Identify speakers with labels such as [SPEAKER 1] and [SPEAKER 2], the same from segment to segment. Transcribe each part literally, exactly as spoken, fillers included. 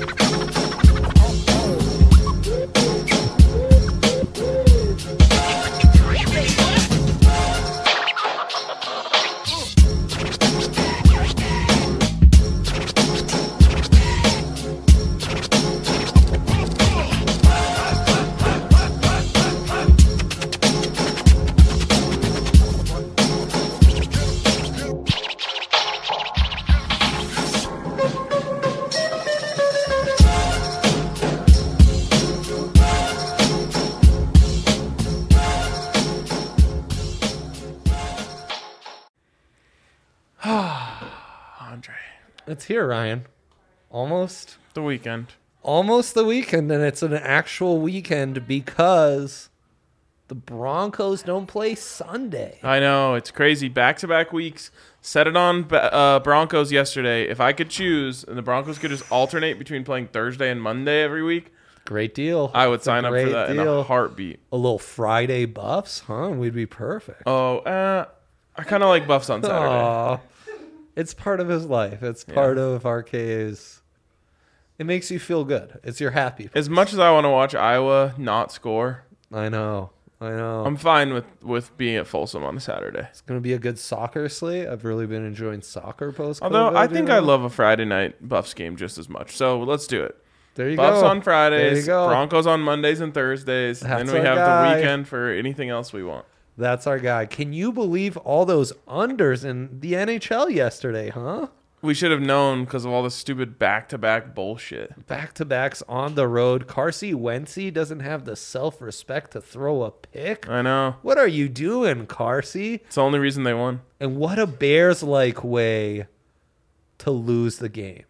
[SPEAKER 1] It's here, Ryan. Almost
[SPEAKER 2] the weekend.
[SPEAKER 1] Almost the weekend, and it's an actual weekend because the Broncos don't play Sunday.
[SPEAKER 2] I know. It's crazy. Back-to-back weeks. Set it on uh, Broncos yesterday. If I could choose, and the Broncos could just alternate between playing Thursday and Monday every week,
[SPEAKER 1] great deal.
[SPEAKER 2] I would
[SPEAKER 1] It's
[SPEAKER 2] sign up for that
[SPEAKER 1] deal.
[SPEAKER 2] in a heartbeat.
[SPEAKER 1] A little Friday buffs, huh? We'd be perfect.
[SPEAKER 2] Oh, uh, I kind of like buffs on Saturday.
[SPEAKER 1] Aww. It's part of his life. It's part yeah. of R K A's. It makes you feel good. It's your happy place.
[SPEAKER 2] As much as I want to watch Iowa not score,
[SPEAKER 1] I know. I know.
[SPEAKER 2] I'm fine with, with being at Folsom on a Saturday.
[SPEAKER 1] It's going to be a good soccer slate. I've really been enjoying soccer post-COVID.
[SPEAKER 2] Although I think
[SPEAKER 1] you know?
[SPEAKER 2] I love a Friday night Buffs game just as much. So let's do it.
[SPEAKER 1] There you
[SPEAKER 2] Buffs
[SPEAKER 1] go.
[SPEAKER 2] on Fridays,
[SPEAKER 1] there you go.
[SPEAKER 2] Broncos on Mondays and Thursdays.
[SPEAKER 1] That's
[SPEAKER 2] then we have
[SPEAKER 1] guy.
[SPEAKER 2] the weekend for anything else we want.
[SPEAKER 1] That's our guy. Can you believe all those unders in the N H L yesterday, huh?
[SPEAKER 2] We should have known because of all the stupid back-to-back bullshit.
[SPEAKER 1] Back-to-backs on the road. Carsey Wentzy doesn't have the self-respect to throw a pick.
[SPEAKER 2] I know.
[SPEAKER 1] What are you doing, Carsey?
[SPEAKER 2] It's the only reason they won.
[SPEAKER 1] And what a Bears-like way to lose the game.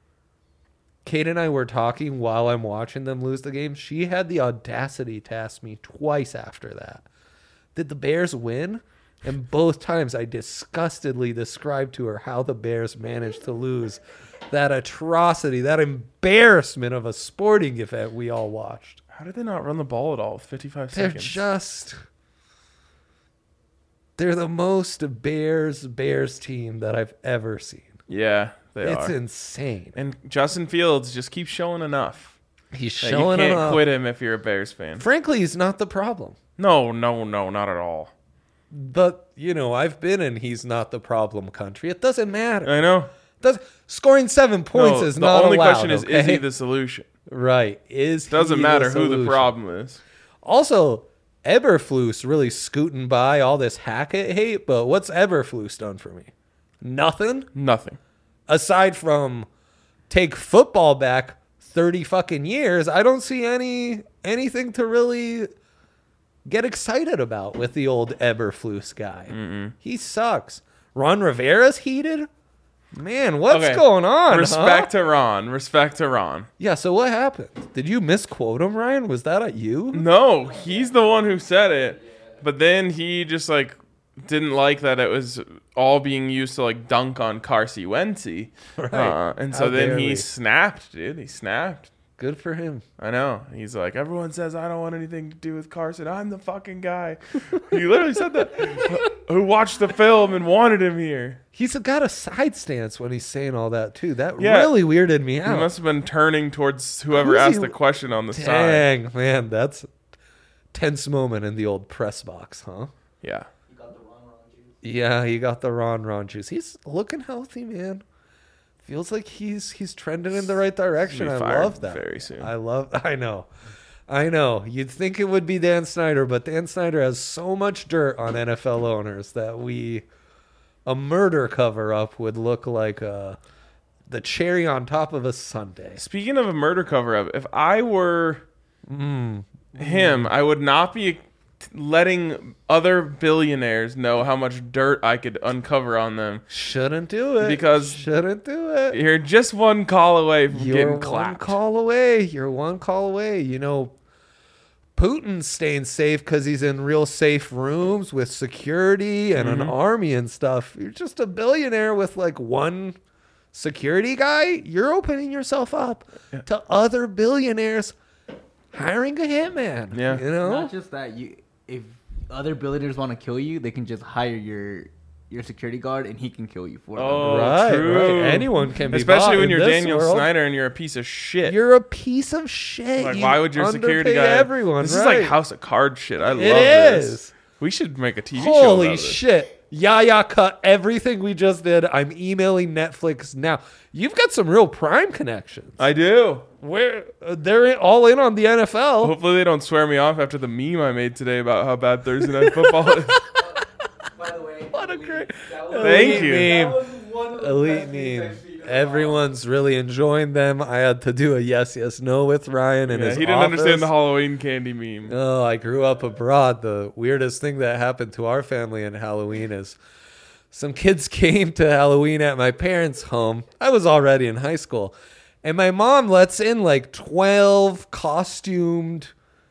[SPEAKER 1] Kate and I were talking while I'm watching them lose the game. She had the audacity to ask me twice after that, did the Bears win? And both times I disgustedly described to her how the Bears managed to lose that atrocity, that embarrassment of a sporting event we all watched.
[SPEAKER 2] How did they not run the ball at all with fifty-five
[SPEAKER 1] They're
[SPEAKER 2] seconds?
[SPEAKER 1] just... They're the most Bears, Bears team that I've ever seen.
[SPEAKER 2] Yeah, they
[SPEAKER 1] it's
[SPEAKER 2] are.
[SPEAKER 1] It's insane.
[SPEAKER 2] And Justin Fields just keeps showing enough.
[SPEAKER 1] He's showing enough.
[SPEAKER 2] You can't
[SPEAKER 1] enough.
[SPEAKER 2] quit him if you're a Bears fan.
[SPEAKER 1] Frankly, he's not the problem.
[SPEAKER 2] No, no, no, not at all.
[SPEAKER 1] But, you know, I've been in he's not the problem country. It doesn't matter.
[SPEAKER 2] I know.
[SPEAKER 1] Does, scoring seven points
[SPEAKER 2] no,
[SPEAKER 1] is not allowed.
[SPEAKER 2] The only question is,
[SPEAKER 1] okay?
[SPEAKER 2] is he the solution?
[SPEAKER 1] Right. Is
[SPEAKER 2] Doesn't
[SPEAKER 1] he
[SPEAKER 2] matter
[SPEAKER 1] the
[SPEAKER 2] who
[SPEAKER 1] solution?
[SPEAKER 2] the problem is.
[SPEAKER 1] Also, Eberflus really scooting by all this Hackett hate, but what's Eberflus done for me? Nothing?
[SPEAKER 2] Nothing.
[SPEAKER 1] Aside from take football back thirty fucking years, I don't see any anything to really get excited about with the old Eberflus guy.
[SPEAKER 2] Mm-mm.
[SPEAKER 1] He sucks. Ron Rivera's heated? Man, what's
[SPEAKER 2] okay.
[SPEAKER 1] going on?
[SPEAKER 2] Respect
[SPEAKER 1] huh?
[SPEAKER 2] to Ron. Respect to Ron.
[SPEAKER 1] Yeah, so what happened? Did you misquote him, Ryan? Was that at you?
[SPEAKER 2] No, he's the one who said it. But then he just like didn't like that it was all being used to like dunk on Carsey Wentzy.
[SPEAKER 1] Right.
[SPEAKER 2] Uh, and so
[SPEAKER 1] How
[SPEAKER 2] then
[SPEAKER 1] dare
[SPEAKER 2] he
[SPEAKER 1] we.
[SPEAKER 2] snapped, dude. He snapped.
[SPEAKER 1] Good for him.
[SPEAKER 2] I know. He's like, everyone says I don't want anything to do with Carson. I'm the fucking guy. He literally said that. Who watched the film and wanted him here.
[SPEAKER 1] He's got a side stance when he's saying all that, too. That
[SPEAKER 2] Yeah.
[SPEAKER 1] really weirded me out.
[SPEAKER 2] He must have been turning towards whoever
[SPEAKER 1] Who's
[SPEAKER 2] asked
[SPEAKER 1] he-
[SPEAKER 2] the question on the side.
[SPEAKER 1] Dang, man, that's a tense moment in the old press box, huh?
[SPEAKER 2] Yeah.
[SPEAKER 3] You got the Ron Ron juice.
[SPEAKER 1] Yeah, he got the Ron Ron juice. He's looking healthy, man. Feels like he's he's trending in the right direction.
[SPEAKER 2] He'll be
[SPEAKER 1] I
[SPEAKER 2] fired
[SPEAKER 1] love that.
[SPEAKER 2] very soon.
[SPEAKER 1] I love. I know, I know. You'd think it would be Dan Snyder, but Dan Snyder has so much dirt on N F L owners that we a murder cover up would look like uh, the cherry on top of a sundae.
[SPEAKER 2] Speaking of a murder cover-up, if I were
[SPEAKER 1] Mm.
[SPEAKER 2] him, I would not be letting other billionaires know how much dirt I could uncover on them.
[SPEAKER 1] Shouldn't do it
[SPEAKER 2] Because
[SPEAKER 1] shouldn't do it.
[SPEAKER 2] You're just one call away from
[SPEAKER 1] You're
[SPEAKER 2] getting
[SPEAKER 1] one
[SPEAKER 2] clapped.
[SPEAKER 1] call away. You're one call away. You know, Putin's staying safe because he's in real safe rooms with security and
[SPEAKER 2] Mhm.
[SPEAKER 1] an army and stuff. You're just a billionaire with like one security guy. You're opening yourself up
[SPEAKER 2] Yeah.
[SPEAKER 1] to other billionaires hiring a hitman.
[SPEAKER 2] Yeah.
[SPEAKER 1] You know?
[SPEAKER 3] Not just that. You, if other billionaires want to kill you, they can just hire your you're a security guard and he can kill you for
[SPEAKER 2] Oh,
[SPEAKER 1] right,
[SPEAKER 2] true.
[SPEAKER 1] right. Anyone can be
[SPEAKER 2] Especially
[SPEAKER 1] bought
[SPEAKER 2] when
[SPEAKER 1] in
[SPEAKER 2] you're
[SPEAKER 1] this
[SPEAKER 2] Daniel
[SPEAKER 1] world.
[SPEAKER 2] Snyder and you're a piece of shit.
[SPEAKER 1] You're a piece of shit.
[SPEAKER 2] Like,
[SPEAKER 1] You
[SPEAKER 2] why would your security
[SPEAKER 1] underpay
[SPEAKER 2] guy?
[SPEAKER 1] everyone?
[SPEAKER 2] This
[SPEAKER 1] right.
[SPEAKER 2] is like House of Cards shit. I love
[SPEAKER 1] It
[SPEAKER 2] this.
[SPEAKER 1] is.
[SPEAKER 2] We should make a T V show
[SPEAKER 1] Holy
[SPEAKER 2] about this.
[SPEAKER 1] shit. Yaya cut everything we just did. I'm emailing Netflix now. You've got some real Prime connections.
[SPEAKER 2] I do.
[SPEAKER 1] Where uh, they're all in on the N F L.
[SPEAKER 2] Hopefully they don't swear me off after the meme I made today about how bad Thursday Night Football is.
[SPEAKER 3] By the way,
[SPEAKER 1] What a great-
[SPEAKER 3] that
[SPEAKER 2] Thank
[SPEAKER 1] Elite
[SPEAKER 2] you.
[SPEAKER 1] meme.
[SPEAKER 3] That was one of the
[SPEAKER 1] Elite
[SPEAKER 3] best memes
[SPEAKER 1] meme.
[SPEAKER 3] I've seen in a while.
[SPEAKER 1] Everyone's really enjoying them. I had to do a yes, yes, no with Ryan and
[SPEAKER 2] Yeah,
[SPEAKER 1] his
[SPEAKER 2] he didn't
[SPEAKER 1] office.
[SPEAKER 2] understand the Halloween candy meme.
[SPEAKER 1] Oh, I grew up abroad. The weirdest thing that happened to our family in Halloween is some kids came to Halloween at my parents' home. I was already in high school. And my mom lets in like twelve costumed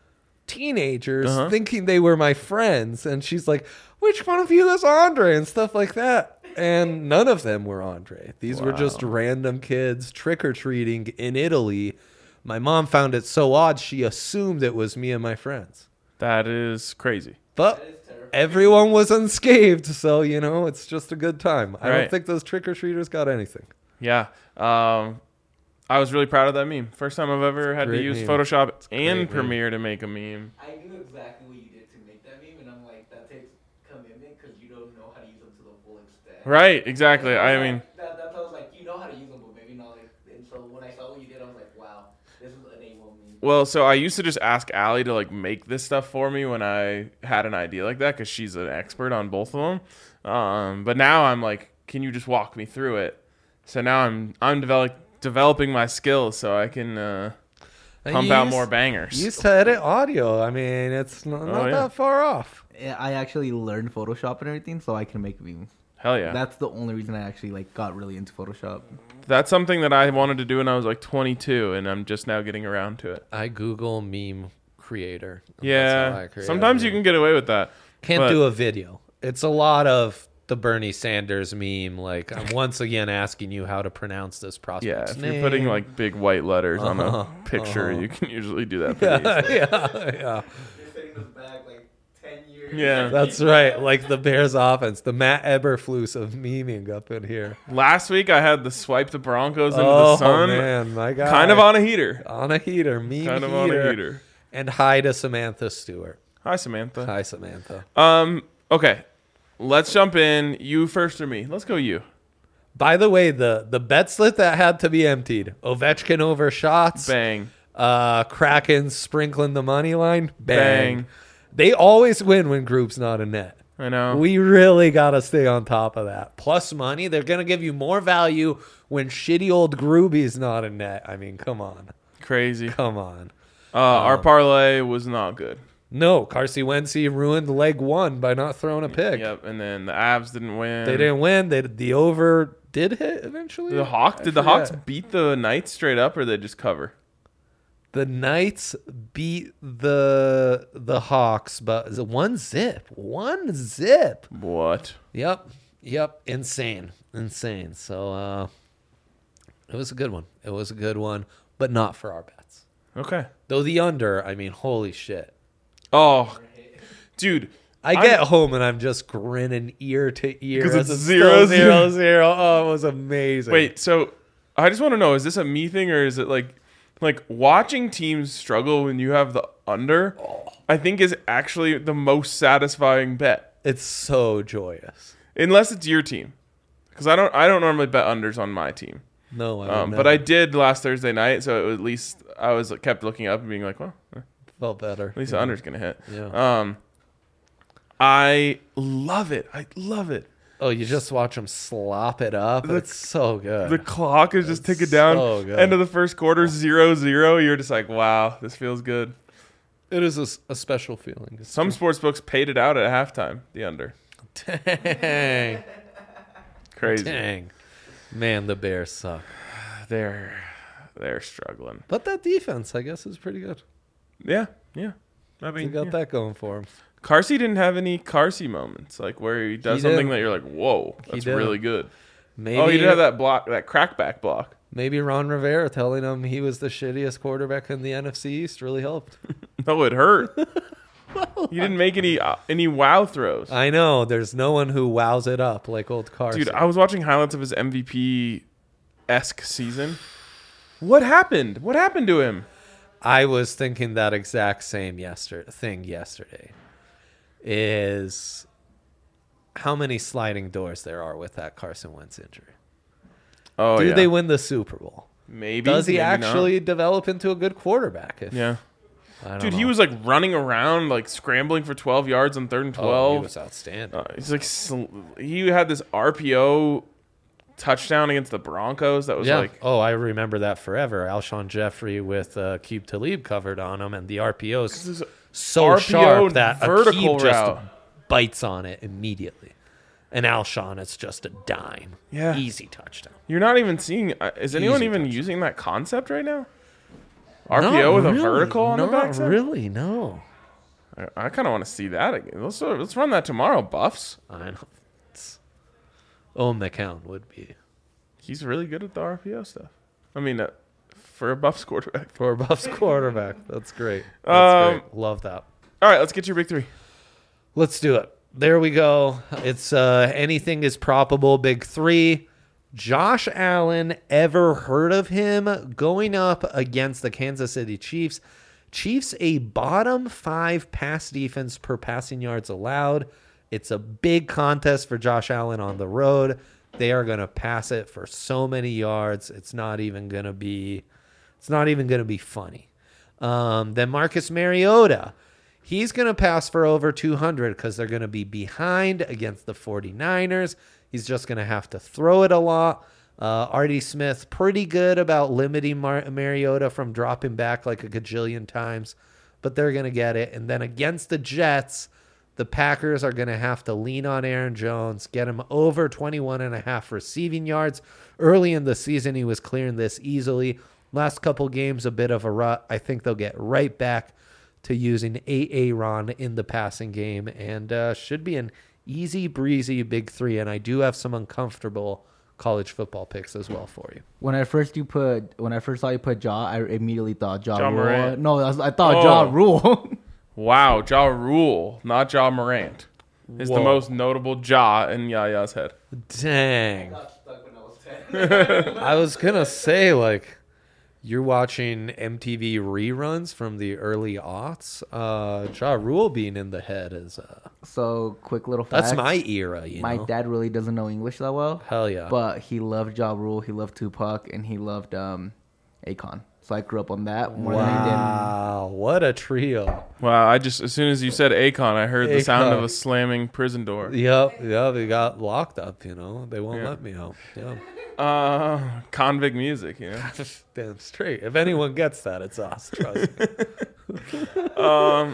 [SPEAKER 1] teenagers
[SPEAKER 2] Uh-huh.
[SPEAKER 1] thinking they were my friends. And she's like, which one of you is Andre? And stuff like that. And none of them were Andre. These were just
[SPEAKER 2] Wow.
[SPEAKER 1] random kids trick-or-treating in Italy. My mom found it so odd, she assumed it was me and my friends.
[SPEAKER 2] That is crazy.
[SPEAKER 1] But
[SPEAKER 3] That is terrifying.
[SPEAKER 1] everyone was unscathed, so, you know, it's just a good time. I
[SPEAKER 2] Right.
[SPEAKER 1] don't think those trick-or-treaters got anything.
[SPEAKER 2] Yeah. Um, I was really proud of that meme. First time I've ever had to
[SPEAKER 1] great
[SPEAKER 2] use
[SPEAKER 1] meme.
[SPEAKER 2] Photoshop
[SPEAKER 1] great
[SPEAKER 2] and
[SPEAKER 1] meme.
[SPEAKER 2] Premiere to make a meme.
[SPEAKER 3] I knew exactly what you did to make that meme, and I'm like, that takes commitment because you don't know how to use them to the full extent.
[SPEAKER 2] Right, exactly.
[SPEAKER 3] And
[SPEAKER 2] I
[SPEAKER 3] was
[SPEAKER 2] mean,
[SPEAKER 3] like, that, that's how I was like, you know how to use them, but maybe not. Like, and so when I saw what you did, I was like, wow, this is an A one meme.
[SPEAKER 2] well, so I used to just ask Allie to like make this stuff for me when I had an idea like that because she's an expert on both of them. Um, but now I'm like, can you just walk me through it? So now I'm I'm develop, developing my skills so I can uh,
[SPEAKER 1] And
[SPEAKER 2] pump
[SPEAKER 1] you
[SPEAKER 2] out
[SPEAKER 1] used-
[SPEAKER 2] more bangers.
[SPEAKER 1] You used to edit audio. I mean, it's not, not
[SPEAKER 2] Oh, yeah.
[SPEAKER 1] that far off.
[SPEAKER 3] Yeah, I actually learned Photoshop and everything, so I can make memes.
[SPEAKER 2] Hell yeah.
[SPEAKER 3] That's the only reason I actually like got really into Photoshop.
[SPEAKER 2] That's something that I wanted to do when I was like twenty-two, and I'm just now getting around to it.
[SPEAKER 1] I Google meme creator. That's how I
[SPEAKER 2] Yeah.
[SPEAKER 1] create
[SPEAKER 2] Sometimes
[SPEAKER 1] a
[SPEAKER 2] you
[SPEAKER 1] meme.
[SPEAKER 2] can get away with that.
[SPEAKER 1] Can't
[SPEAKER 2] but-
[SPEAKER 1] do a video. It's a lot of the Bernie Sanders meme. Like, I'm once again asking you how to pronounce this
[SPEAKER 2] Yeah,
[SPEAKER 1] prospect's
[SPEAKER 2] if
[SPEAKER 1] name.
[SPEAKER 2] you're putting like big white letters on
[SPEAKER 1] Uh-huh,
[SPEAKER 2] a picture,
[SPEAKER 1] uh-huh.
[SPEAKER 2] you can usually do that pretty
[SPEAKER 1] yeah,
[SPEAKER 2] easily.
[SPEAKER 1] yeah, yeah.
[SPEAKER 3] You're setting this back like ten years.
[SPEAKER 2] Yeah.
[SPEAKER 1] That's right. Like the Bears offense, the Matt Eberflus of memeing up in here.
[SPEAKER 2] Last week I had the swipe the Broncos into
[SPEAKER 1] Oh
[SPEAKER 2] the sun.
[SPEAKER 1] man, my God.
[SPEAKER 2] Kind of on a heater.
[SPEAKER 1] on a heater, meme
[SPEAKER 2] Kind of
[SPEAKER 1] heater.
[SPEAKER 2] on a heater.
[SPEAKER 1] And hi to Samantha Stewart.
[SPEAKER 2] Hi, Samantha.
[SPEAKER 1] Hi, Samantha.
[SPEAKER 2] Um. Okay. Let's jump in. You first or me? Let's go you.
[SPEAKER 1] By the way, the the bet slip that had to be emptied. Ovechkin over shots.
[SPEAKER 2] Bang.
[SPEAKER 1] Uh, Kraken sprinkling the money line. Bang.
[SPEAKER 2] Bang.
[SPEAKER 1] They always win when group's not a net.
[SPEAKER 2] I know.
[SPEAKER 1] We really got to stay on top of that. Plus money, they're going to give you more value when shitty old Groovy's not a net. I mean, come on.
[SPEAKER 2] Crazy.
[SPEAKER 1] Come on.
[SPEAKER 2] Uh, our parlay was not good.
[SPEAKER 1] No, Carsey Wentz ruined leg one by not throwing a pick.
[SPEAKER 2] Yep. And then the Avs didn't win.
[SPEAKER 1] They didn't win. They the over did hit eventually.
[SPEAKER 2] The Hawk.
[SPEAKER 1] I
[SPEAKER 2] Did the Hawks
[SPEAKER 1] forget.
[SPEAKER 2] beat the Knights straight up, or they just cover?
[SPEAKER 1] The Knights beat the the Hawks, but is it one zip, one zip.
[SPEAKER 2] What?
[SPEAKER 1] Yep, yep, insane, insane. So uh, it was a good one. It was a good one, but not for our bets.
[SPEAKER 2] Okay.
[SPEAKER 1] Though the under, I mean, holy shit.
[SPEAKER 2] Oh, dude.
[SPEAKER 1] I
[SPEAKER 2] I'm-
[SPEAKER 1] get home and I'm just grinning ear to ear
[SPEAKER 2] 'Cause
[SPEAKER 1] as
[SPEAKER 2] it's
[SPEAKER 1] still
[SPEAKER 2] zero,
[SPEAKER 1] zero zero. Oh, it was amazing.
[SPEAKER 2] Wait, so I just want to know: is this a me thing, or is it like, like watching teams struggle when you have the under? I think is actually the most satisfying bet,
[SPEAKER 1] it's so joyous.
[SPEAKER 2] unless it's your team, because I don't, I don't normally bet unders on my team.
[SPEAKER 1] No, I would
[SPEAKER 2] Um, but
[SPEAKER 1] never.
[SPEAKER 2] I did last Thursday night, so it was at least I was kept looking up and being like, well, at
[SPEAKER 1] felt better.
[SPEAKER 2] least
[SPEAKER 1] yeah.
[SPEAKER 2] the under's gonna hit.
[SPEAKER 1] Yeah.
[SPEAKER 2] Um, I love it. I love it.
[SPEAKER 1] Oh, you just watch them slop it up.
[SPEAKER 2] The-
[SPEAKER 1] it's so good.
[SPEAKER 2] The clock is just
[SPEAKER 1] It's
[SPEAKER 2] ticking down.
[SPEAKER 1] so good.
[SPEAKER 2] End of the first quarter, zero zero. You're just like, wow, this feels good.
[SPEAKER 1] it is a, s- a special feeling. It's
[SPEAKER 2] Some sports books paid it out at halftime. The under,
[SPEAKER 1] dang,
[SPEAKER 2] crazy.
[SPEAKER 1] dang, man, the Bears suck.
[SPEAKER 2] They're they're struggling.
[SPEAKER 1] But that defense, I guess, is pretty good.
[SPEAKER 2] Yeah, yeah. I
[SPEAKER 1] They
[SPEAKER 2] mean,
[SPEAKER 1] got
[SPEAKER 2] yeah.
[SPEAKER 1] that going for him.
[SPEAKER 2] Carsey didn't have any Carsey moments, like where he does
[SPEAKER 1] He
[SPEAKER 2] something
[SPEAKER 1] didn't.
[SPEAKER 2] that you're like, whoa,
[SPEAKER 1] He
[SPEAKER 2] that's
[SPEAKER 1] didn't.
[SPEAKER 2] really good.
[SPEAKER 1] Maybe,
[SPEAKER 2] Oh, he did have that block, that crackback block.
[SPEAKER 1] Maybe Ron Rivera telling him he was the shittiest quarterback in the N F C East really helped.
[SPEAKER 2] No, it hurt.
[SPEAKER 1] Well,
[SPEAKER 2] He didn't make any uh, any wow throws.
[SPEAKER 1] I know. There's no one who wows it up like old Carson.
[SPEAKER 2] Dude, I was watching highlights of his M V P-esque season. What happened? What happened to him?
[SPEAKER 1] I was thinking that exact same yester- thing yesterday. Is how many sliding doors there are with that Carson Wentz injury.
[SPEAKER 2] Oh,
[SPEAKER 1] Do
[SPEAKER 2] yeah.
[SPEAKER 1] they win the Super Bowl?
[SPEAKER 2] Maybe.
[SPEAKER 1] Does he
[SPEAKER 2] maybe
[SPEAKER 1] actually
[SPEAKER 2] not.
[SPEAKER 1] develop into a good quarterback? If,
[SPEAKER 2] Yeah.
[SPEAKER 1] I don't
[SPEAKER 2] Dude,
[SPEAKER 1] know.
[SPEAKER 2] he was like running around, like scrambling for twelve yards on third and
[SPEAKER 1] Oh,
[SPEAKER 2] twelve.
[SPEAKER 1] he was outstanding.
[SPEAKER 2] Uh, he's like sl- he had this R P O touchdown against the Broncos that was
[SPEAKER 1] yeah.
[SPEAKER 2] like
[SPEAKER 1] oh, I remember that forever. Alshon Jeffrey with uh, Keeb Talib covered on him, and the R P O's
[SPEAKER 2] this
[SPEAKER 1] so
[SPEAKER 2] R P O
[SPEAKER 1] sharp that
[SPEAKER 2] vertical
[SPEAKER 1] Aqib just
[SPEAKER 2] route.
[SPEAKER 1] bites on it immediately. And Alshon, it's just a dime.
[SPEAKER 2] Yeah.
[SPEAKER 1] Easy touchdown.
[SPEAKER 2] you're not even seeing. Uh, is anyone
[SPEAKER 1] Easy
[SPEAKER 2] even
[SPEAKER 1] touchdown.
[SPEAKER 2] using that concept right now? R P O
[SPEAKER 1] Not
[SPEAKER 2] with
[SPEAKER 1] really.
[SPEAKER 2] a vertical on
[SPEAKER 1] Not
[SPEAKER 2] the backside.
[SPEAKER 1] really, no.
[SPEAKER 2] I, I kind of want to see that again. Let's uh, let's run that tomorrow, Buffs.
[SPEAKER 1] I know. It's, oh, McCown would be.
[SPEAKER 2] He's really good at the R P O stuff. I mean, uh, for a Buffs quarterback.
[SPEAKER 1] For a Buffs quarterback. That's great. That's
[SPEAKER 2] Um,
[SPEAKER 1] great. Love that.
[SPEAKER 2] All right, let's get your big three.
[SPEAKER 1] Let's do it. There we go. It's uh, anything is probable. Big three. Josh Allen, ever heard of him? Going up against the Kansas City Chiefs. Chiefs, a bottom five pass defense per passing yards allowed. It's a big contest for Josh Allen on the road. They are going to pass it for so many yards. It's not even going to be. It's not even going to be funny. Um, then Marcus Mariota. He's going to pass for over two hundred because they're going to be behind against the 49ers. He's just going to have to throw it a lot. Uh, Artie Smith, pretty good about limiting Mar- Mariota from dropping back like a gajillion times, but they're going to get it. And then against the Jets, the Packers are going to have to lean on Aaron Jones, get him over twenty-one and a half receiving yards. Early in the season, he was clearing this easily. Last couple games, a bit of a rut. I think they'll get right back to using Aaron in the passing game, and uh, should be an easy breezy big three. And I do have some uncomfortable college football picks as well for you.
[SPEAKER 4] When I first you put when I first saw you put Jaw, I immediately thought Jaw
[SPEAKER 2] Ja
[SPEAKER 4] Rule.
[SPEAKER 2] Morant.
[SPEAKER 4] No, I, was, I thought
[SPEAKER 2] Oh.
[SPEAKER 4] Jaw Rule.
[SPEAKER 2] Wow, Ja Rule, not Ja Morant, is the
[SPEAKER 1] Whoa.
[SPEAKER 2] most notable Ja in Yaya's head.
[SPEAKER 1] Dang.
[SPEAKER 3] Got stuck when I was ten.
[SPEAKER 1] I was going to say, like, you're watching M T V reruns from the early aughts. Uh, Ja Rule being in the head is, uh,
[SPEAKER 4] So quick little fact.
[SPEAKER 1] that's my era, you
[SPEAKER 4] My
[SPEAKER 1] know?
[SPEAKER 4] dad really doesn't know English that well,
[SPEAKER 1] Hell yeah.
[SPEAKER 4] but he loved Ja Rule, he loved Tupac, and he loved um, Akon. So I grew up on that more than I did.
[SPEAKER 1] Wow, what a trio.
[SPEAKER 2] Wow, I just as soon as you said Akon, I heard the sound of
[SPEAKER 1] Akon.
[SPEAKER 2] a slamming prison door.
[SPEAKER 1] Yep, yeah, they got locked up, you know. They won't
[SPEAKER 2] Yeah.
[SPEAKER 1] let me out. Yeah.
[SPEAKER 2] Uh, convict music, you know.
[SPEAKER 1] Damn straight. If anyone gets that, it's us. Trust me.
[SPEAKER 2] Um.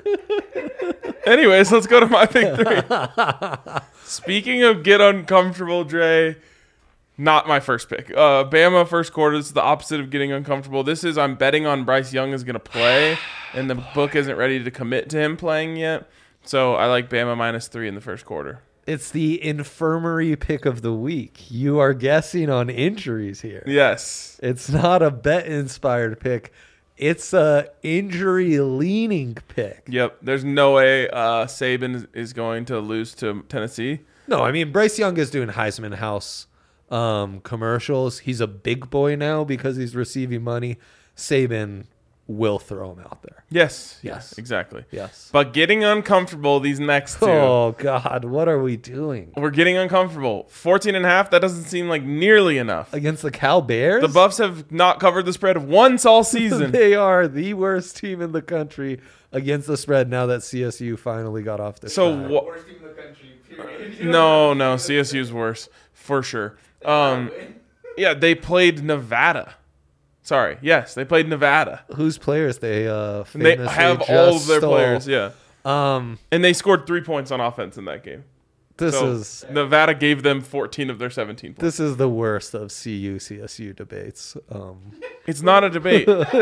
[SPEAKER 2] Anyways, let's go to my big three. Speaking of get uncomfortable, Dre, not my first pick. Uh, Bama first quarter. This is the opposite of getting uncomfortable. This is I'm betting on Bryce Young is going to play, and the book isn't ready to commit to him playing yet. So I like Bama minus three in the first quarter.
[SPEAKER 1] It's the infirmary pick of the week. You are guessing on injuries here.
[SPEAKER 2] Yes.
[SPEAKER 1] It's not a bet inspired pick. It's a injury leaning pick.
[SPEAKER 2] Yep. There's no way uh, Saban is- is going to lose to Tennessee.
[SPEAKER 1] No, I mean Bryce Young is doing Heisman House um, commercials. He's a big boy now because he's receiving money. Saban will throw him out there.
[SPEAKER 2] Yes.
[SPEAKER 1] Yes.
[SPEAKER 2] Exactly.
[SPEAKER 1] Yes.
[SPEAKER 2] But getting uncomfortable these next two.
[SPEAKER 1] Oh God, what are we doing
[SPEAKER 2] We're getting uncomfortable. fourteen and a half, that doesn't seem like nearly enough.
[SPEAKER 1] against the Cal Bears?
[SPEAKER 2] The Buffs have not covered the spread once all season.
[SPEAKER 1] They are the worst team in the country against the spread now that C S U finally got off the
[SPEAKER 2] So
[SPEAKER 1] schneid.
[SPEAKER 2] wha-
[SPEAKER 3] Worst team in the country, period.
[SPEAKER 2] No, no, C S U's worse for sure. Um, yeah, they played Nevada. Sorry, yes, they played Nevada.
[SPEAKER 1] Whose players they uh
[SPEAKER 2] And they
[SPEAKER 1] famously
[SPEAKER 2] have
[SPEAKER 1] just
[SPEAKER 2] all of their
[SPEAKER 1] stole.
[SPEAKER 2] players, yeah.
[SPEAKER 1] Um,
[SPEAKER 2] And they scored three points on offense in that game.
[SPEAKER 1] this
[SPEAKER 2] So
[SPEAKER 1] is
[SPEAKER 2] Nevada gave them fourteen of their seventeen points.
[SPEAKER 1] this is the worst of C U C S U debates. Um,
[SPEAKER 2] It's not a debate.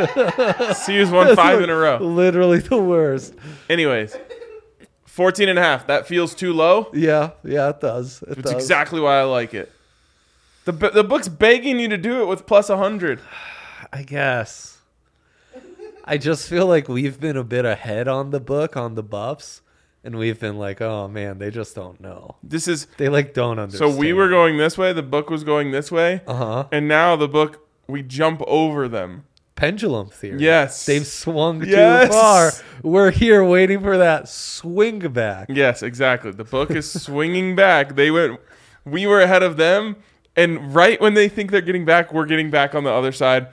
[SPEAKER 2] C U's won five in a row.
[SPEAKER 1] literally the worst.
[SPEAKER 2] Anyways, fourteen and a half. That feels too low.
[SPEAKER 1] Yeah, yeah, it does. It
[SPEAKER 2] It's
[SPEAKER 1] does.
[SPEAKER 2] exactly why I like it. The the book's begging you to do it with plus one hundred.
[SPEAKER 1] I guess. I just feel like we've been a bit ahead on the book on the buffs, and we've been like, oh man, they just don't know.
[SPEAKER 2] This is
[SPEAKER 1] They like don't understand.
[SPEAKER 2] so we were going this way. The book was going this way,
[SPEAKER 1] uh huh
[SPEAKER 2] and now the book we jump over them.
[SPEAKER 1] pendulum theory.
[SPEAKER 2] Yes.
[SPEAKER 1] They've swung
[SPEAKER 2] Yes.
[SPEAKER 1] too far. We're here waiting for that swing back.
[SPEAKER 2] Yes, exactly. The book is swinging back. They went. We were ahead of them, and right when they think they're getting back, we're getting back on the other side.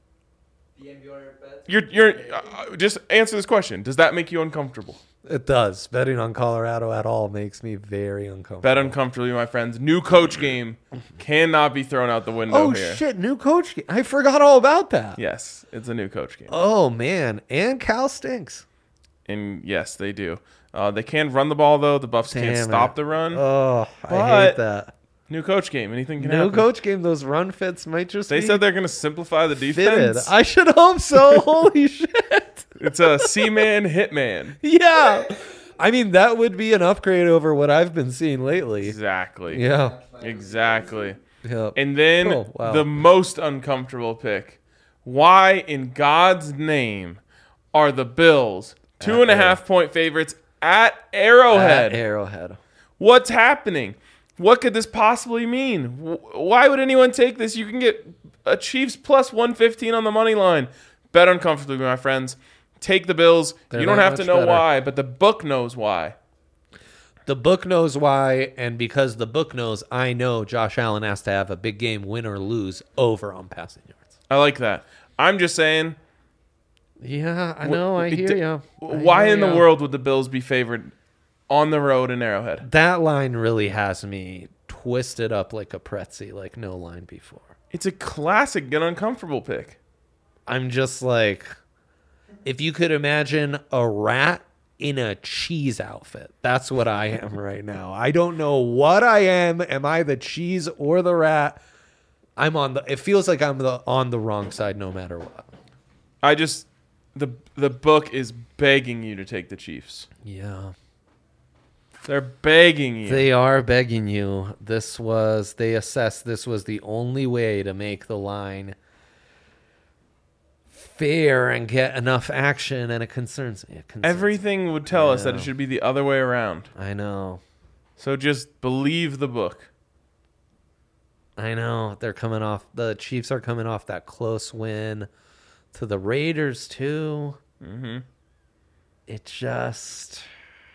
[SPEAKER 3] The N B R bets.
[SPEAKER 2] You're you're uh, just answer this question. Does that make you uncomfortable?
[SPEAKER 1] It does. Betting on Colorado at all makes me very uncomfortable.
[SPEAKER 2] Bet uncomfortably, my friends. New coach game cannot be thrown out the window
[SPEAKER 1] Oh
[SPEAKER 2] here.
[SPEAKER 1] shit! New coach. Game. I forgot all about that.
[SPEAKER 2] Yes, it's a new coach game.
[SPEAKER 1] Oh man, and Cal stinks.
[SPEAKER 2] And yes, they do. Uh, they can run the ball though. The Buffs can't
[SPEAKER 1] Damn
[SPEAKER 2] stop
[SPEAKER 1] it.
[SPEAKER 2] the run.
[SPEAKER 1] Oh, I
[SPEAKER 2] But-
[SPEAKER 1] hate that.
[SPEAKER 2] New coach game. Anything can
[SPEAKER 1] New
[SPEAKER 2] happen.
[SPEAKER 1] coach game. Those run fits might just.
[SPEAKER 2] They
[SPEAKER 1] be
[SPEAKER 2] said they're going to simplify the
[SPEAKER 1] fitted.
[SPEAKER 2] defense.
[SPEAKER 1] I should hope so. Holy shit!
[SPEAKER 2] It's a C-man hitman.
[SPEAKER 1] Yeah, I mean that would be an upgrade over what I've been seeing lately.
[SPEAKER 2] Exactly.
[SPEAKER 1] Yeah.
[SPEAKER 2] Exactly.
[SPEAKER 1] Yep.
[SPEAKER 2] And then
[SPEAKER 1] Oh, wow.
[SPEAKER 2] the most uncomfortable pick. Why in God's name are the Bills two
[SPEAKER 1] At
[SPEAKER 2] and a
[SPEAKER 1] Arrow-
[SPEAKER 2] half point favorites at Arrowhead?
[SPEAKER 1] At Arrowhead.
[SPEAKER 2] What's happening? What could this possibly mean? Wh- Why would anyone take this? You can get a Chiefs plus one fifteen on the money line. Bet uncomfortably, my friends. Take the Bills.
[SPEAKER 1] They're
[SPEAKER 2] you don't
[SPEAKER 1] not
[SPEAKER 2] have to
[SPEAKER 1] much
[SPEAKER 2] know
[SPEAKER 1] better.
[SPEAKER 2] why, but the book knows why.
[SPEAKER 1] The book knows why, and because the book knows, I know Josh Allen has to have a big game, win or lose, over on passing yards.
[SPEAKER 2] I like that. I'm just saying,
[SPEAKER 1] Yeah, I
[SPEAKER 2] Wh-
[SPEAKER 1] know. I
[SPEAKER 2] it
[SPEAKER 1] hear
[SPEAKER 2] d-
[SPEAKER 1] you.
[SPEAKER 2] why in the world would the Bills be favored on the road in Arrowhead?
[SPEAKER 1] That line really has me twisted up like a pretzel, like no line before.
[SPEAKER 2] It's a classic get uncomfortable pick.
[SPEAKER 1] I'm just like, if you could imagine a rat in a cheese outfit, that's what I am right now. I don't know what I am. Am I the cheese or the rat? I'm on the. It feels like I'm the on the wrong side, no matter what.
[SPEAKER 2] I just the the book is begging you to take the Chiefs.
[SPEAKER 1] Yeah.
[SPEAKER 2] They're begging you.
[SPEAKER 1] They are begging you. This was, they assessed this was the only way to make the line fair and get enough action, and it concerns me. It concerns
[SPEAKER 2] Everything would tell us that it
[SPEAKER 1] Yeah.
[SPEAKER 2] should be the other way around.
[SPEAKER 1] me. I know.
[SPEAKER 2] So just believe the book.
[SPEAKER 1] I know. They're coming off, the Chiefs are coming off that close win to the Raiders, too.
[SPEAKER 2] Mm-hmm.
[SPEAKER 1] It just.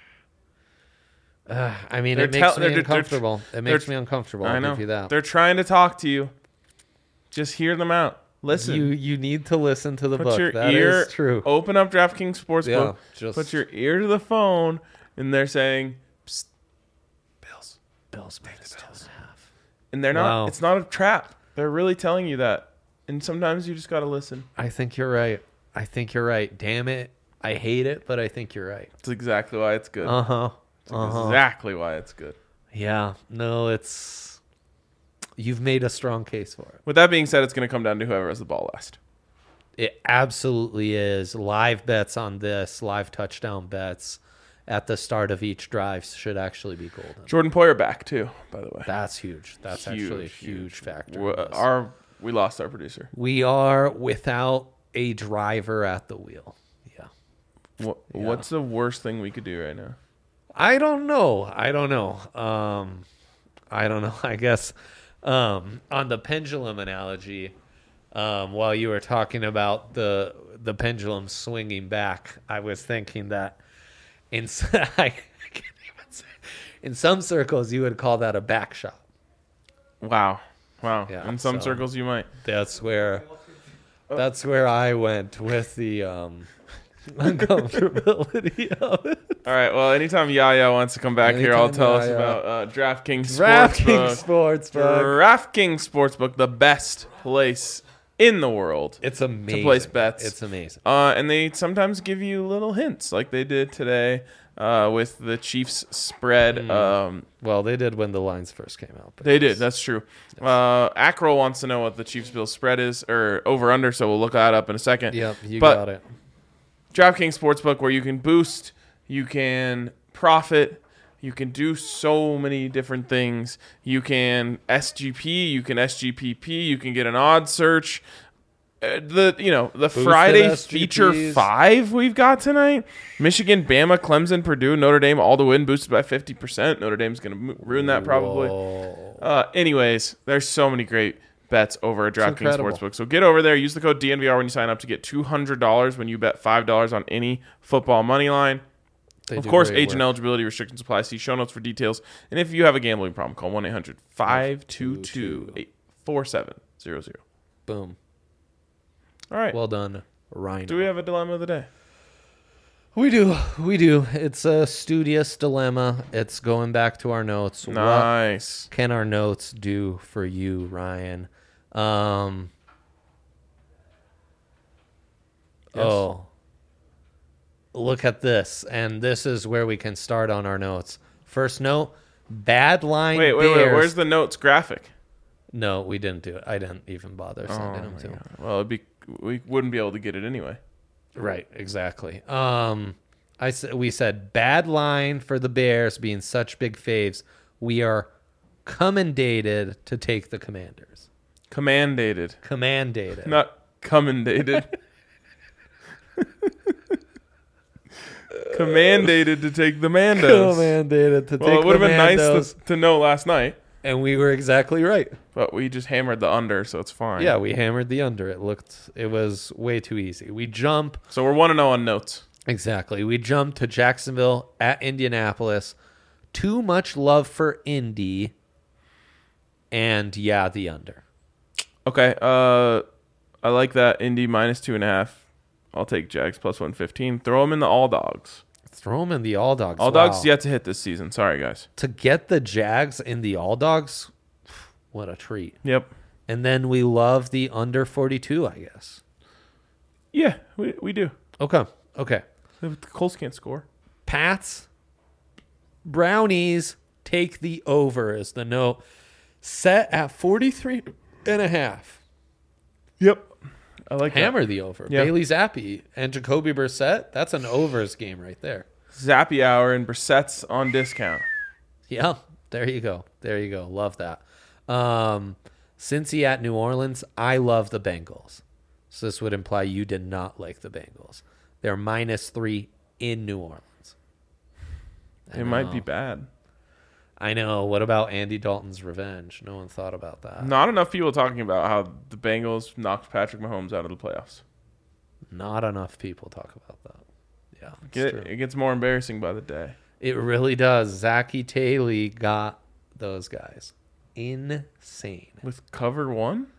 [SPEAKER 1] Uh, I mean,
[SPEAKER 2] They're
[SPEAKER 1] it makes
[SPEAKER 2] tell-
[SPEAKER 1] me
[SPEAKER 2] they're- they're-
[SPEAKER 1] uncomfortable. It makes
[SPEAKER 2] they're-
[SPEAKER 1] me uncomfortable.
[SPEAKER 2] I
[SPEAKER 1] I'll
[SPEAKER 2] know.
[SPEAKER 1] give you that.
[SPEAKER 2] They're trying to talk to you. Just hear them out. Listen.
[SPEAKER 1] You you need to listen to the
[SPEAKER 2] Put
[SPEAKER 1] book.
[SPEAKER 2] your
[SPEAKER 1] That
[SPEAKER 2] ear.
[SPEAKER 1] is true.
[SPEAKER 2] Open up DraftKings Sportsbook.
[SPEAKER 1] Yeah, just
[SPEAKER 2] Put your ear to the phone, and they're saying, Psst, Bills.
[SPEAKER 1] Bills minus two and a half.
[SPEAKER 2] And they're not.
[SPEAKER 1] Wow.
[SPEAKER 2] It's not a trap. They're really telling you that. And sometimes you just got to listen.
[SPEAKER 1] I think you're right. I think you're right. Damn it. I hate it, but I think you're right.
[SPEAKER 2] That's exactly why it's good.
[SPEAKER 1] Uh huh.
[SPEAKER 2] That's
[SPEAKER 1] Uh huh.
[SPEAKER 2] exactly why it's good.
[SPEAKER 1] Yeah. No, it's. You've made a strong case for it.
[SPEAKER 2] With that being said, it's going to come down to whoever has the ball last.
[SPEAKER 1] It absolutely is. Live bets on this, live touchdown bets at the start of each drive should actually be golden.
[SPEAKER 2] Jordan Poyer back too, by the way.
[SPEAKER 1] That's huge. That's
[SPEAKER 2] Huge,
[SPEAKER 1] actually a huge,
[SPEAKER 2] huge.
[SPEAKER 1] factor.
[SPEAKER 2] W-
[SPEAKER 1] in this.
[SPEAKER 2] Our we lost our producer.
[SPEAKER 1] We are without a driver at the wheel. Yeah.
[SPEAKER 2] What,
[SPEAKER 1] Yeah.
[SPEAKER 2] What's the worst thing we could do right now?
[SPEAKER 1] I don't know. I don't know. Um, I don't know. I guess um, on the pendulum analogy, um, while you were talking about the the pendulum swinging back, I was thinking that in s- I can't even say, in some circles you would call that a back shot.
[SPEAKER 2] Wow, wow.
[SPEAKER 1] Yeah,
[SPEAKER 2] In some
[SPEAKER 1] so-
[SPEAKER 2] circles, you might.
[SPEAKER 1] That's where that's where I went with the um, uncomfortability of it.
[SPEAKER 2] All right. Well, anytime Yaya wants to come back here, I'll
[SPEAKER 1] Anytime
[SPEAKER 2] tell us
[SPEAKER 1] Yaya.
[SPEAKER 2] about uh, DraftKings
[SPEAKER 1] DraftKings
[SPEAKER 2] Sportsbook.
[SPEAKER 1] Sportsbook.
[SPEAKER 2] DraftKings Sportsbook, the best place in the world.
[SPEAKER 1] It's amazing.
[SPEAKER 2] place bets.
[SPEAKER 1] It's amazing.
[SPEAKER 2] Uh, and they sometimes give you little hints, like they did today uh, with the Chiefs spread.
[SPEAKER 1] Mm.
[SPEAKER 2] Um,
[SPEAKER 1] Well, they did when the lines first came out. But
[SPEAKER 2] they did.
[SPEAKER 1] yes.
[SPEAKER 2] That's true. Uh, Acro wants to know what the Chiefs Bills spread is, or over under. So we'll look that up in a second.
[SPEAKER 1] Yep, you
[SPEAKER 2] But-
[SPEAKER 1] got it.
[SPEAKER 2] DraftKings Sportsbook, where you can boost, you can profit, you can do so many different things. You can S G P, you can S G P P, you can get an odd search. Uh, the you know the
[SPEAKER 1] Boosted
[SPEAKER 2] Friday
[SPEAKER 1] S G
[SPEAKER 2] feature
[SPEAKER 1] Ps.
[SPEAKER 2] five we've got tonight: Michigan, Bama, Clemson, Purdue, Notre Dame, all to win, boosted by fifty percent. Notre Dame's gonna mo- ruin that probably.
[SPEAKER 1] Whoa.
[SPEAKER 2] Uh, anyways, there's so many great bets over at DraftKings
[SPEAKER 1] incredible.
[SPEAKER 2] Sportsbook. So get over there, use the code D N V R when you sign up to get two hundred dollars when you bet five dollars on any football money line.
[SPEAKER 1] They
[SPEAKER 2] Of
[SPEAKER 1] do
[SPEAKER 2] course,
[SPEAKER 1] great
[SPEAKER 2] age and
[SPEAKER 1] work.
[SPEAKER 2] eligibility restrictions apply. See show notes for details. And if you have a gambling problem, call one eight hundred five two two eight four seven zero zero.
[SPEAKER 1] Boom.
[SPEAKER 2] All right.
[SPEAKER 1] Well done, Rhino.
[SPEAKER 2] Do we have a dilemma of the day?
[SPEAKER 1] We do. We do. It's a studious dilemma. It's going back to our notes.
[SPEAKER 2] Nice.
[SPEAKER 1] What can our notes do for you, Ryan? Um.
[SPEAKER 2] Yes.
[SPEAKER 1] Oh. Look at this. And this is where we can start on our notes. First note, bad line
[SPEAKER 2] Wait, wait, wait.
[SPEAKER 1] Bears.
[SPEAKER 2] Where's the notes graphic?
[SPEAKER 1] No, we didn't do it. I didn't even bother sending them
[SPEAKER 2] my
[SPEAKER 1] to him.
[SPEAKER 2] God. Well, it'd be we wouldn't be able to get it anyway.
[SPEAKER 1] Right, exactly. Um, I s- we said bad line for the Bears being such big faves. We are commendated to take the Commanders.
[SPEAKER 2] Commandated,
[SPEAKER 1] Commandated.
[SPEAKER 2] not commendated. Commandated to take the Mandos.
[SPEAKER 1] Commandated to
[SPEAKER 2] Well,
[SPEAKER 1] take
[SPEAKER 2] it would
[SPEAKER 1] the
[SPEAKER 2] have been nice
[SPEAKER 1] Mandos.
[SPEAKER 2] to, to know last night,
[SPEAKER 1] And we were exactly right.
[SPEAKER 2] but we just hammered the under, so it's fine.
[SPEAKER 1] Yeah, we hammered the under. It looked, it was way too easy. We jump.
[SPEAKER 2] So we're one and zero on notes.
[SPEAKER 1] Exactly. We jump to Jacksonville at Indianapolis. Too much love for Indy. And yeah, the under.
[SPEAKER 2] Okay. Uh, I like that. Indy minus two and a half. I'll take Jags plus one fifteen. Throw them in the all dogs.
[SPEAKER 1] Throw them in the all dogs.
[SPEAKER 2] All
[SPEAKER 1] Wow.
[SPEAKER 2] dogs yet to hit this season. Sorry, guys.
[SPEAKER 1] To get the Jags in the all dogs, what a treat.
[SPEAKER 2] Yep.
[SPEAKER 1] And then we love the under forty-two, I guess.
[SPEAKER 2] Yeah, we we do.
[SPEAKER 1] Okay. Okay.
[SPEAKER 2] The Colts can't score.
[SPEAKER 1] Pats, Brownies, take the over is the note. Set at forty-three and a half.
[SPEAKER 2] Yep. I like
[SPEAKER 1] Hammer the over.
[SPEAKER 2] Yeah.
[SPEAKER 1] Bailey Zappi and Jacoby Brissett. That's an overs game right there.
[SPEAKER 2] that. Zappy hour and Brissett's on discount.
[SPEAKER 1] Yeah, there you go. There you go. Love that. Um, Cincy at New Orleans. I love the Bengals. So this would imply you did not like the Bengals. They're minus three in New Orleans. I
[SPEAKER 2] It might be
[SPEAKER 1] know.
[SPEAKER 2] bad.
[SPEAKER 1] I know. What about Andy Dalton's revenge? No one thought about that.
[SPEAKER 2] Not enough people talking about how the Bengals knocked Patrick Mahomes out of the playoffs.
[SPEAKER 1] Not enough people talk about that. Yeah, it's
[SPEAKER 2] Get,
[SPEAKER 1] true.
[SPEAKER 2] it gets more embarrassing by the day.
[SPEAKER 1] It really does. Zachy Taylor got those guys. Insane.
[SPEAKER 2] With cover one?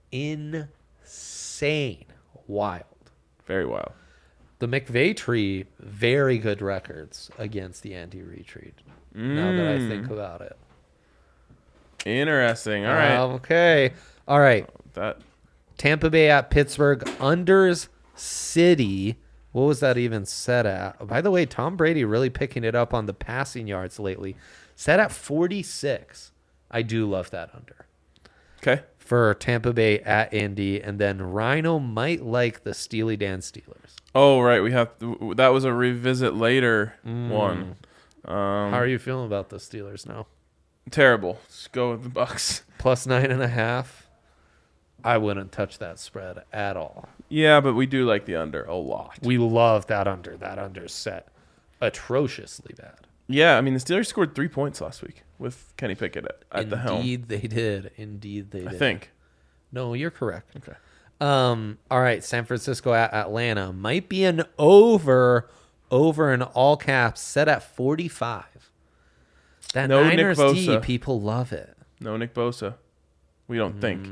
[SPEAKER 1] Insane. Wild.
[SPEAKER 2] Very wild.
[SPEAKER 1] The McVay tree, very good records against the Andy Reid tree. Now that I think about it.
[SPEAKER 2] Interesting. All right.
[SPEAKER 1] Okay. All right.
[SPEAKER 2] that
[SPEAKER 1] Tampa Bay at Pittsburgh. Unders City. What was that even set at? By the way, Tom Brady really picking it up on the passing yards lately. Set at forty-six. I do love that under.
[SPEAKER 2] Okay.
[SPEAKER 1] For Tampa Bay at Indy. And then Rhino might like the Steely Dan Steelers.
[SPEAKER 2] Oh, right. We have that was a revisit later
[SPEAKER 1] Mm.
[SPEAKER 2] one. Um,
[SPEAKER 1] How are you feeling about the Steelers now?
[SPEAKER 2] Terrible. Just go with the Bucks.
[SPEAKER 1] Plus nine and a half. I wouldn't touch that spread at all.
[SPEAKER 2] Yeah, but we do like the under a lot.
[SPEAKER 1] We love that under. That under set atrociously bad.
[SPEAKER 2] Yeah, I mean the Steelers scored three points last week with Kenny Pickett at, at the helm.
[SPEAKER 1] Indeed, they did. Indeed, they
[SPEAKER 2] I
[SPEAKER 1] did.
[SPEAKER 2] think.
[SPEAKER 1] No, you're correct.
[SPEAKER 2] Okay.
[SPEAKER 1] Um. All right, San Francisco at Atlanta might be an over. Over in all caps, set at forty-five. That
[SPEAKER 2] No Nick
[SPEAKER 1] Niners D,
[SPEAKER 2] Bosa.
[SPEAKER 1] people love it.
[SPEAKER 2] No Nick Bosa. We don't think.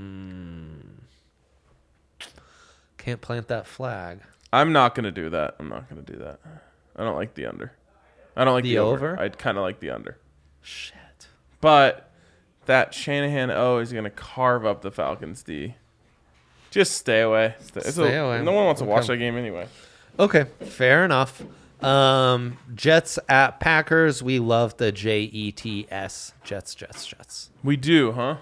[SPEAKER 1] Can't plant that flag.
[SPEAKER 2] I'm not gonna do that. I'm not gonna do that. I don't like the under. I don't like
[SPEAKER 1] The
[SPEAKER 2] the, over.
[SPEAKER 1] over?
[SPEAKER 2] I'd kind of like the under.
[SPEAKER 1] Shit.
[SPEAKER 2] But that Shanahan O is gonna carve up the Falcons D. Just stay away. Stay, it's
[SPEAKER 1] Stay
[SPEAKER 2] a-
[SPEAKER 1] away.
[SPEAKER 2] No one wants to watch
[SPEAKER 1] Okay.
[SPEAKER 2] that game anyway.
[SPEAKER 1] Okay, fair enough. Um, Jets at Packers. We love the J E T S. Jets, Jets, Jets.
[SPEAKER 2] We do, huh?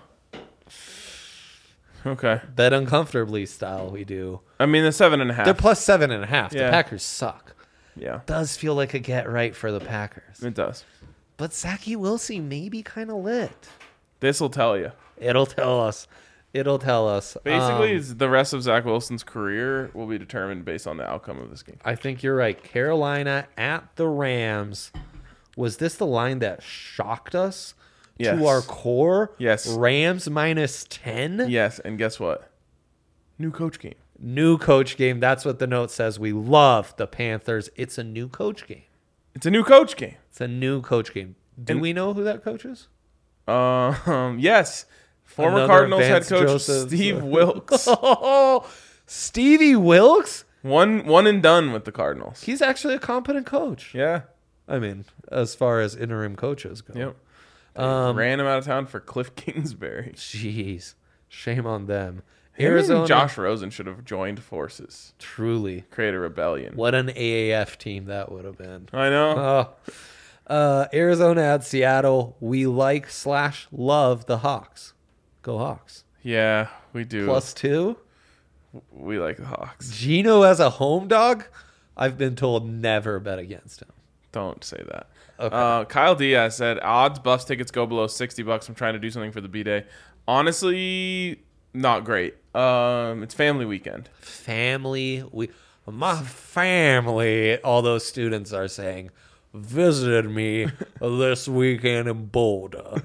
[SPEAKER 2] Okay.
[SPEAKER 1] Bet uncomfortably style. We do.
[SPEAKER 2] I mean the seven and a half.
[SPEAKER 1] They're plus seven and a half.
[SPEAKER 2] Yeah.
[SPEAKER 1] The Packers suck.
[SPEAKER 2] Yeah,
[SPEAKER 1] Does feel like a get right for the Packers.
[SPEAKER 2] it does.
[SPEAKER 1] But Zachy Wilson may be kind of lit.
[SPEAKER 2] This will tell you.
[SPEAKER 1] It'll tell us. It'll tell us.
[SPEAKER 2] Basically,
[SPEAKER 1] Um,
[SPEAKER 2] it's the rest of Zach Wilson's career will be determined based on the outcome of this game.
[SPEAKER 1] I think you're right. Carolina at the Rams. Was this the line that shocked us
[SPEAKER 2] Yes.
[SPEAKER 1] to our core?
[SPEAKER 2] Yes.
[SPEAKER 1] Rams minus ten?
[SPEAKER 2] Yes, and guess what? New coach game.
[SPEAKER 1] New coach game. That's what the note says. We love the Panthers. It's a new coach game.
[SPEAKER 2] It's a new coach game.
[SPEAKER 1] It's a new coach game. Do
[SPEAKER 2] And-
[SPEAKER 1] we know who that coach is?
[SPEAKER 2] Um, yes. Former
[SPEAKER 1] Another
[SPEAKER 2] Cardinals
[SPEAKER 1] Vance
[SPEAKER 2] head coach
[SPEAKER 1] Joseph.
[SPEAKER 2] Steve Wilkes.
[SPEAKER 1] Oh, Stevie Wilkes?
[SPEAKER 2] one one and done with the Cardinals.
[SPEAKER 1] He's actually a competent coach.
[SPEAKER 2] Yeah.
[SPEAKER 1] I mean, as far as interim coaches go.
[SPEAKER 2] Yep. They
[SPEAKER 1] Um,
[SPEAKER 2] ran him out of town for Cliff Kingsbury.
[SPEAKER 1] Jeez. Shame on them.
[SPEAKER 2] Him
[SPEAKER 1] Arizona.
[SPEAKER 2] and Josh Rosen should have joined forces.
[SPEAKER 1] Truly.
[SPEAKER 2] Create a rebellion.
[SPEAKER 1] What an A A F team that would have been.
[SPEAKER 2] I know.
[SPEAKER 1] Oh. Uh, Arizona at Seattle. We like slash love the Hawks. Go Hawks.
[SPEAKER 2] Yeah, we do.
[SPEAKER 1] Plus two.
[SPEAKER 2] We like the Hawks.
[SPEAKER 1] Gino as a home dog. I've been told never bet against him.
[SPEAKER 2] Don't say that.
[SPEAKER 1] Okay.
[SPEAKER 2] Uh, Kyle Diaz said, odds buffs tickets go below sixty bucks. I'm trying to do something for the B-Day. Honestly, not great. Um, it's family weekend.
[SPEAKER 1] Family. We, my family. All those students are saying, visited me this weekend in Boulder.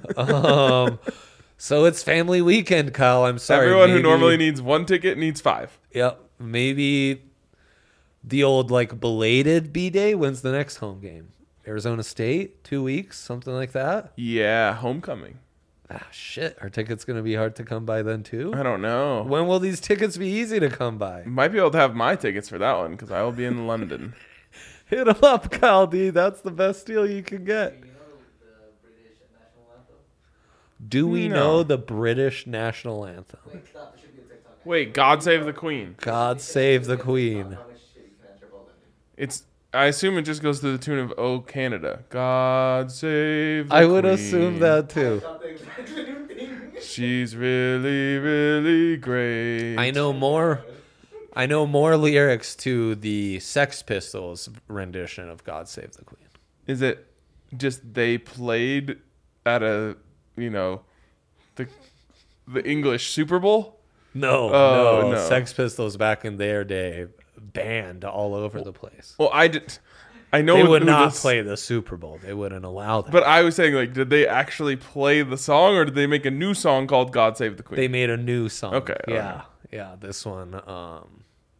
[SPEAKER 1] um, so it's family weekend, Kyle. I'm sorry.
[SPEAKER 2] Everyone who
[SPEAKER 1] Maybe-
[SPEAKER 2] normally needs one ticket needs five.
[SPEAKER 1] Yep. Maybe the old like belated B day. When's the next home game? Arizona State, two weeks, something like that.
[SPEAKER 2] Yeah, homecoming.
[SPEAKER 1] Ah, shit. Are tickets going to be hard to come by then too?
[SPEAKER 2] I don't know.
[SPEAKER 1] When will these tickets be easy to come by?
[SPEAKER 2] Might be able to have my tickets for that one because I will be in London.
[SPEAKER 1] Hit them up, Kyle D. That's the best deal you can get.
[SPEAKER 3] Do you know the British national anthem?
[SPEAKER 1] Do we
[SPEAKER 2] No.
[SPEAKER 1] know the British national anthem?
[SPEAKER 3] Wait, stop. There should be a TikTok.
[SPEAKER 2] Wait, God Save the Queen.
[SPEAKER 1] God save the Queen.
[SPEAKER 3] How much shit you can answer about that, dude.
[SPEAKER 2] It's. I assume it just goes to the tune of "Oh Canada." God save. The
[SPEAKER 1] I would
[SPEAKER 2] Queen.
[SPEAKER 1] assume that too.
[SPEAKER 3] Not the exact same thing.
[SPEAKER 2] She's really, really great.
[SPEAKER 1] I know more. I know more lyrics to the Sex Pistols rendition of "God Save the Queen."
[SPEAKER 2] Is it just they played at a, you know, the the English Super Bowl?
[SPEAKER 1] No,
[SPEAKER 2] Oh,
[SPEAKER 1] no,
[SPEAKER 2] no.
[SPEAKER 1] Sex Pistols back in their day banned all over the place.
[SPEAKER 2] Well, I did. I know
[SPEAKER 1] They
[SPEAKER 2] who
[SPEAKER 1] would not
[SPEAKER 2] this-
[SPEAKER 1] play the Super Bowl. They wouldn't allow that.
[SPEAKER 2] But I was saying, like, did they actually play the song, or did they make a new song called "God Save the Queen"?
[SPEAKER 1] They made a new song.
[SPEAKER 2] Okay,
[SPEAKER 1] Yeah.
[SPEAKER 2] okay.
[SPEAKER 1] Yeah. This one, um,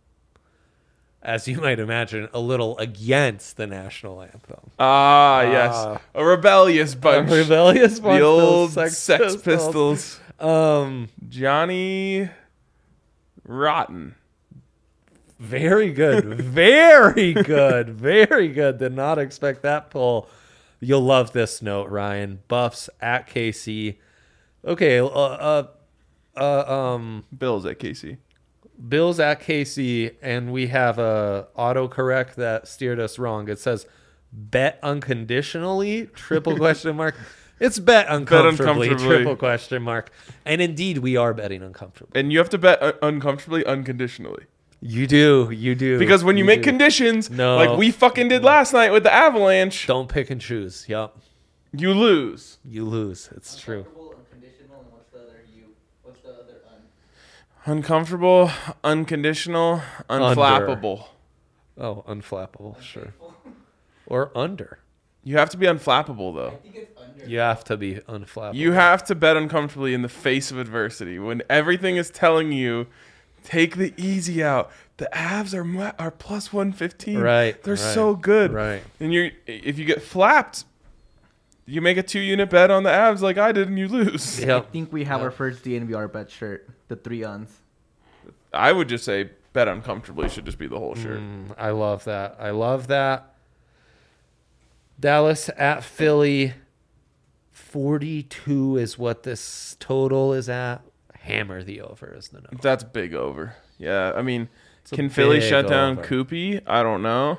[SPEAKER 1] as you might imagine, a little against the national anthem.
[SPEAKER 2] ah, yes,
[SPEAKER 1] Ah.
[SPEAKER 2] a rebellious bunch.
[SPEAKER 1] A rebellious bunch.
[SPEAKER 2] the
[SPEAKER 1] those
[SPEAKER 2] old
[SPEAKER 1] Sex,
[SPEAKER 2] Sex,
[SPEAKER 1] Pistols.
[SPEAKER 2] Pistols.
[SPEAKER 1] Um,
[SPEAKER 2] Johnny Rotten.
[SPEAKER 1] very good. Very good. Very good. Did not expect that pull. You'll love this note, Ryan. Buffs at K C. Okay. Uh, uh, uh, um,
[SPEAKER 2] Bills at Casey.
[SPEAKER 1] Bills at K C, and we have a autocorrect that steered us wrong. It says bet unconditionally, triple question mark. It's bet uncomfortably,
[SPEAKER 2] uncomfortably.
[SPEAKER 1] triple question mark. And indeed, we are betting uncomfortably.
[SPEAKER 2] And you have to bet uh, uncomfortably, unconditionally.
[SPEAKER 1] You do, you do.
[SPEAKER 2] Because when you, make
[SPEAKER 1] do.
[SPEAKER 2] conditions,
[SPEAKER 1] No.
[SPEAKER 2] like we fucking did last night with the Avalanche,
[SPEAKER 1] Don't pick and choose. Yup.
[SPEAKER 2] you lose.
[SPEAKER 1] You lose. It's true.
[SPEAKER 3] Uncomfortable, unconditional, and what's the other U? What's the other un?
[SPEAKER 2] Uncomfortable, unconditional,
[SPEAKER 1] Under.
[SPEAKER 2] unflappable.
[SPEAKER 1] Oh, unflappable. Sure. Or under.
[SPEAKER 2] You have to be unflappable,
[SPEAKER 3] I
[SPEAKER 2] though.
[SPEAKER 3] think it's under.
[SPEAKER 1] You have to be unflappable.
[SPEAKER 2] You have to bet uncomfortably in the face of adversity when everything is telling you, take the easy out. The Avs are ma- are plus one fifteen.
[SPEAKER 1] Right.
[SPEAKER 2] They're
[SPEAKER 1] right,
[SPEAKER 2] so good.
[SPEAKER 1] Right.
[SPEAKER 2] And you, if you get flapped, you make a two unit bet on the Avs like I did, and you lose.
[SPEAKER 4] I
[SPEAKER 1] Yep.
[SPEAKER 4] think we have
[SPEAKER 1] Yeah.
[SPEAKER 4] our first D N V R bet shirt. The three uns.
[SPEAKER 2] I would just say bet uncomfortably should just be the whole shirt.
[SPEAKER 1] Mm, I love that. I love that. Dallas at Philly. forty-two is what this total is at. Hammer the over is the number.
[SPEAKER 2] That's big over. Yeah, I mean,
[SPEAKER 1] a
[SPEAKER 2] can Philly
[SPEAKER 1] big
[SPEAKER 2] shut down
[SPEAKER 1] over.
[SPEAKER 2] Koopy? I don't know,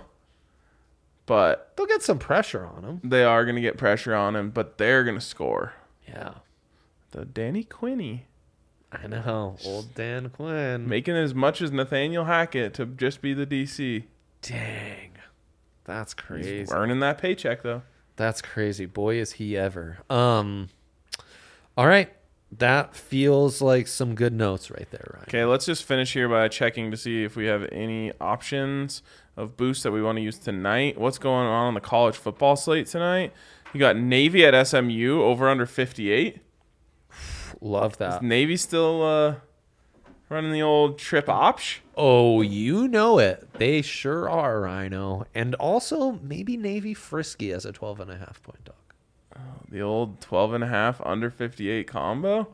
[SPEAKER 2] but
[SPEAKER 1] They'll get some pressure on him.
[SPEAKER 2] they are going to get pressure on him. But they're going to score.
[SPEAKER 1] Yeah.
[SPEAKER 2] The Danny Quinney
[SPEAKER 1] I know. Old Dan Quinn.
[SPEAKER 2] making as much as Nathaniel Hackett to just be the D C.
[SPEAKER 1] Dang. That's crazy.
[SPEAKER 2] He's earning that paycheck though.
[SPEAKER 1] That's crazy. Boy, is he ever. Um, all right. That feels like some good notes right there, Ryan.
[SPEAKER 2] Okay, let's just finish here by checking to see if we have any options of boosts that we want to use tonight. What's going on on the college football slate tonight? You got Navy at S M U over under fifty-eight.
[SPEAKER 1] Love
[SPEAKER 2] Is
[SPEAKER 1] that.
[SPEAKER 2] Navy still uh, running the old trip option?
[SPEAKER 1] Oh, you know it. They sure are, Rhino. And also maybe Navy Frisky as a twelve and a half point dog.
[SPEAKER 2] The old twelve and a half under fifty-eight combo.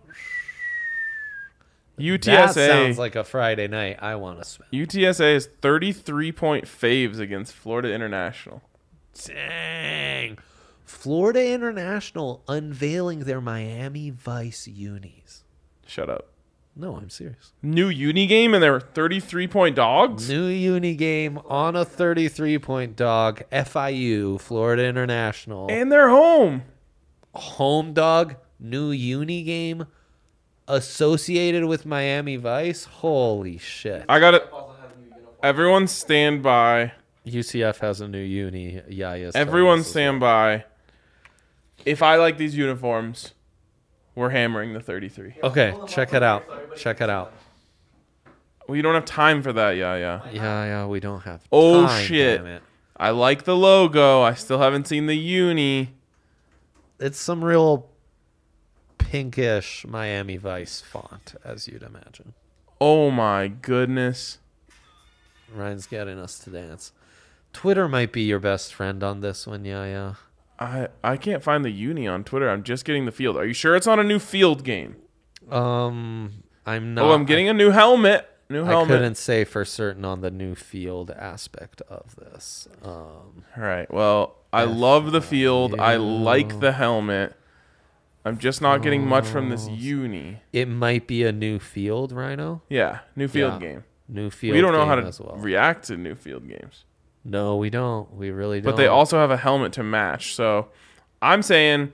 [SPEAKER 2] U T S A
[SPEAKER 1] That sounds like a Friday night I want to spend.
[SPEAKER 2] U T S A is thirty-three point faves against Florida International.
[SPEAKER 1] Dang. Florida International unveiling their Miami Vice unis.
[SPEAKER 2] Shut up.
[SPEAKER 1] No, I'm serious.
[SPEAKER 2] New uni game and they were thirty-three point dogs?
[SPEAKER 1] New uni game on a thirty-three point dog. F I U, Florida International.
[SPEAKER 2] And they're home.
[SPEAKER 1] Home dog, new uni game associated with Miami Vice. Holy shit.
[SPEAKER 2] I got it. Everyone stand by.
[SPEAKER 1] U C F has a new uni. Yeah, yes.
[SPEAKER 2] Everyone stand by. If I like these uniforms, we're hammering the thirty-three.
[SPEAKER 1] Okay, check it out. Check it out.
[SPEAKER 2] We don't have time for that, yeah, yeah.
[SPEAKER 1] Yeah, yeah, we don't have
[SPEAKER 2] Oh,
[SPEAKER 1] time,
[SPEAKER 2] shit.
[SPEAKER 1] damn it.
[SPEAKER 2] I like the logo. I still haven't seen the uni.
[SPEAKER 1] It's some real pinkish Miami Vice font, as you'd imagine.
[SPEAKER 2] Oh my goodness.
[SPEAKER 1] Ryan's getting us to dance. Twitter might be your best friend on this one, yeah, yeah.
[SPEAKER 2] I I can't find the uni on Twitter. I'm just getting the field. Are you sure it's on a new field game?
[SPEAKER 1] Um, I'm not.
[SPEAKER 2] Oh, I'm getting a new helmet. New
[SPEAKER 1] I
[SPEAKER 2] helmet.
[SPEAKER 1] couldn't say for certain on the new field aspect of this. Um,
[SPEAKER 2] All right. Well, I love the field. I
[SPEAKER 1] Yeah.
[SPEAKER 2] like the helmet. I'm just not getting much from this uni.
[SPEAKER 1] it might be a new field, Rhino.
[SPEAKER 2] Yeah, new field
[SPEAKER 1] Yeah.
[SPEAKER 2] game.
[SPEAKER 1] New field.
[SPEAKER 2] We don't know how
[SPEAKER 1] game
[SPEAKER 2] to
[SPEAKER 1] as well.
[SPEAKER 2] react to new field games.
[SPEAKER 1] No, we don't. We really don't.
[SPEAKER 2] But they also have a helmet to match. So I'm saying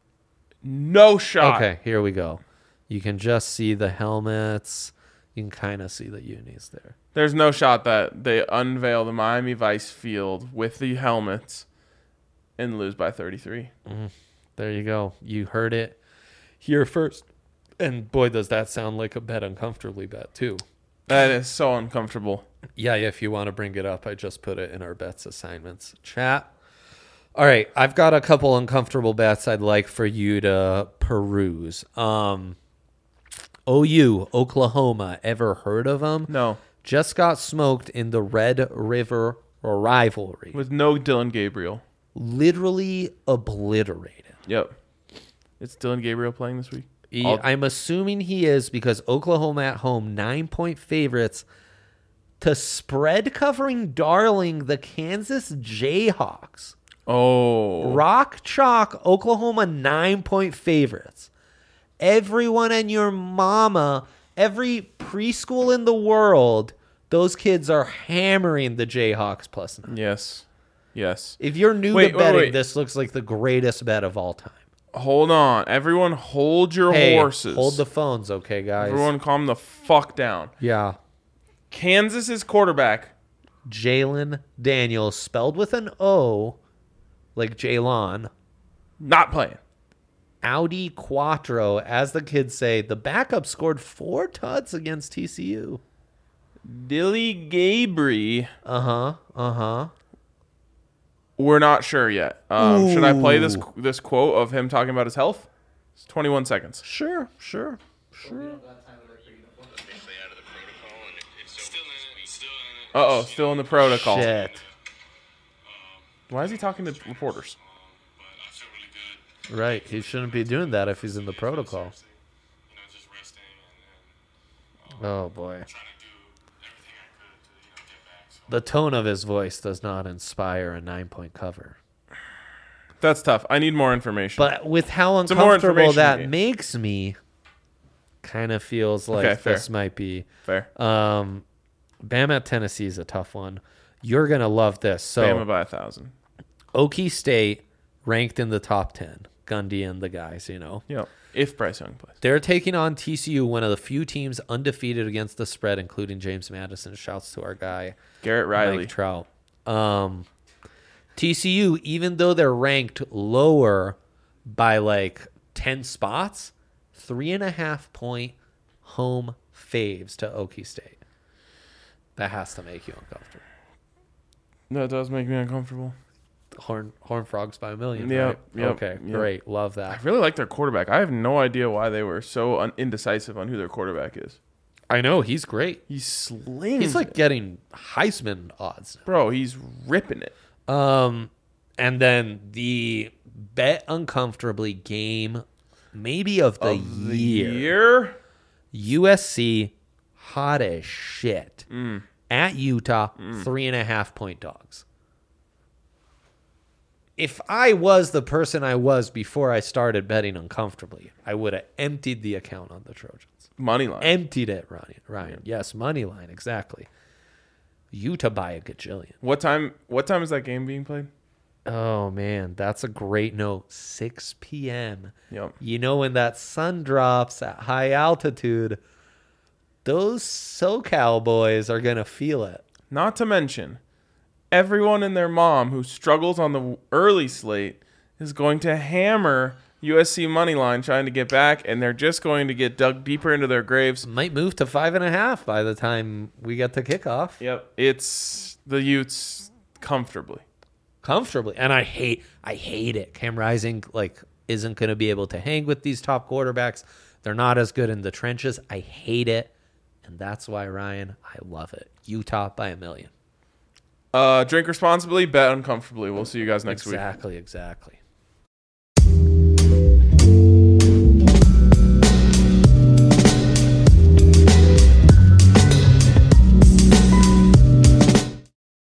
[SPEAKER 2] no shot.
[SPEAKER 1] Okay, here we go. You can just see the helmets. You can kind of see the unis there.
[SPEAKER 2] There's no shot that they unveil the Miami Vice field with the helmets and lose by thirty-three.
[SPEAKER 1] There you go. You heard it here first. And boy, does that sound like a bet uncomfortably bet, too.
[SPEAKER 2] That is so uncomfortable.
[SPEAKER 1] Yeah, yeah, if you want to bring it up, I just put it in our bets assignments chat. All right, I've got a couple uncomfortable bets I'd like for you to peruse. Um, O U, Oklahoma, ever heard of them?
[SPEAKER 2] No.
[SPEAKER 1] Just got smoked in the Red River rivalry.
[SPEAKER 2] With no Dylan Gabriel.
[SPEAKER 1] Literally obliterated.
[SPEAKER 2] Yep. It's Dylan Gabriel playing this week?
[SPEAKER 1] He-
[SPEAKER 2] I'll-
[SPEAKER 1] I'm assuming he is because Oklahoma at home, nine-point favorites to spread covering darling the Kansas Jayhawks.
[SPEAKER 2] Oh.
[SPEAKER 1] Rock chalk, Oklahoma nine-point favorites. Everyone and your mama, every preschool in the world, those kids are hammering the Jayhawks plus nine.
[SPEAKER 2] Yes. Yes.
[SPEAKER 1] If you're new
[SPEAKER 2] Wait,
[SPEAKER 1] to
[SPEAKER 2] wait,
[SPEAKER 1] betting,
[SPEAKER 2] wait.
[SPEAKER 1] this looks like the greatest bet of all time.
[SPEAKER 2] Hold on. Everyone hold your
[SPEAKER 1] Hey,
[SPEAKER 2] horses.
[SPEAKER 1] hold the phones, okay, guys?
[SPEAKER 2] Everyone calm the fuck down.
[SPEAKER 1] Yeah.
[SPEAKER 2] Kansas's quarterback.
[SPEAKER 1] Jalen Daniels, spelled with an O, like Jalon.
[SPEAKER 2] Not playing.
[SPEAKER 1] Audi Quattro, as the kids say, the backup scored four tuds against T C U.
[SPEAKER 2] Dilly Gabry.
[SPEAKER 1] Uh-huh, uh-huh.
[SPEAKER 2] We're not sure yet. Um, should I play this
[SPEAKER 1] Ooh.
[SPEAKER 2] this quote of him talking about his health? It's twenty-one seconds.
[SPEAKER 1] Sure, sure, sure.
[SPEAKER 2] Uh oh, still in the protocol.
[SPEAKER 1] Shit.
[SPEAKER 2] Why is he talking to reporters?
[SPEAKER 1] Right, he shouldn't be doing that if he's in the protocol. Oh, boy. The tone of his voice does not inspire a nine-point cover.
[SPEAKER 2] That's tough. I need more information.
[SPEAKER 1] But with how
[SPEAKER 2] Some more
[SPEAKER 1] uncomfortable
[SPEAKER 2] information
[SPEAKER 1] that
[SPEAKER 2] game.
[SPEAKER 1] makes me, kind of feels like
[SPEAKER 2] Okay, fair.
[SPEAKER 1] this might be.
[SPEAKER 2] Fair.
[SPEAKER 1] Um, Bama at Tennessee is a tough one. You're going to love this. So,
[SPEAKER 2] Bama by a thousand.
[SPEAKER 1] Okie State ranked in the top ten. Gundy and the guys, you know.
[SPEAKER 2] Yeah. If Bryce Young plays.
[SPEAKER 1] They're taking on T C U, one of the few teams undefeated against the spread, including James Madison. Shouts to our guy,
[SPEAKER 2] Garrett Riley.
[SPEAKER 1] Mike Trout. Um, T C U, even though they're ranked lower by like ten spots, three and a half point home faves to Okie State. That has to make you uncomfortable.
[SPEAKER 2] That does make me uncomfortable.
[SPEAKER 1] Horn Horn Frogs by a million.
[SPEAKER 2] Yep,
[SPEAKER 1] Right?
[SPEAKER 2] yep,
[SPEAKER 1] Okay,
[SPEAKER 2] yep.
[SPEAKER 1] great. Love
[SPEAKER 2] I
[SPEAKER 1] that.
[SPEAKER 2] really like their quarterback. I have no idea why they were so un- indecisive on who their quarterback is.
[SPEAKER 1] I know he's great.
[SPEAKER 2] He slings.
[SPEAKER 1] He's like
[SPEAKER 2] it.
[SPEAKER 1] getting Heisman odds.
[SPEAKER 2] bro. He's ripping it.
[SPEAKER 1] Um, and then the bet uncomfortably game, maybe of the,
[SPEAKER 2] Of the
[SPEAKER 1] year.
[SPEAKER 2] year?
[SPEAKER 1] U S C, hot as shit.
[SPEAKER 2] Mm.
[SPEAKER 1] At Utah, three and a half point dogs. If I was the person I was before I started betting uncomfortably, I would have emptied the account on the Trojans.
[SPEAKER 2] Money line.
[SPEAKER 1] Emptied it, Ryan. Ryan. Yes, money line, exactly. Utah by a gajillion.
[SPEAKER 2] what time? What time is that game being played?
[SPEAKER 1] Oh, man, that's a great note. six p.m.
[SPEAKER 2] Yep.
[SPEAKER 1] You know, when that sun drops at high altitude, those SoCal boys are going to feel it.
[SPEAKER 2] Not to mention, everyone and their mom who struggles on the early slate is going to hammer U S C money line trying to get back, and they're just going to get dug deeper into their graves.
[SPEAKER 1] Might move to five and a half by the time we get to kickoff.
[SPEAKER 2] Yep. It's the Utes comfortably.
[SPEAKER 1] Comfortably. And I hate I hate it. Cam Rising like isn't going to be able to hang with these top quarterbacks. They're not as good in the trenches. I hate it. And that's why, Ryan, I love it. Utah by a million.
[SPEAKER 2] Uh, drink responsibly, bet uncomfortably. We'll see you guys next week.
[SPEAKER 1] Exactly, exactly.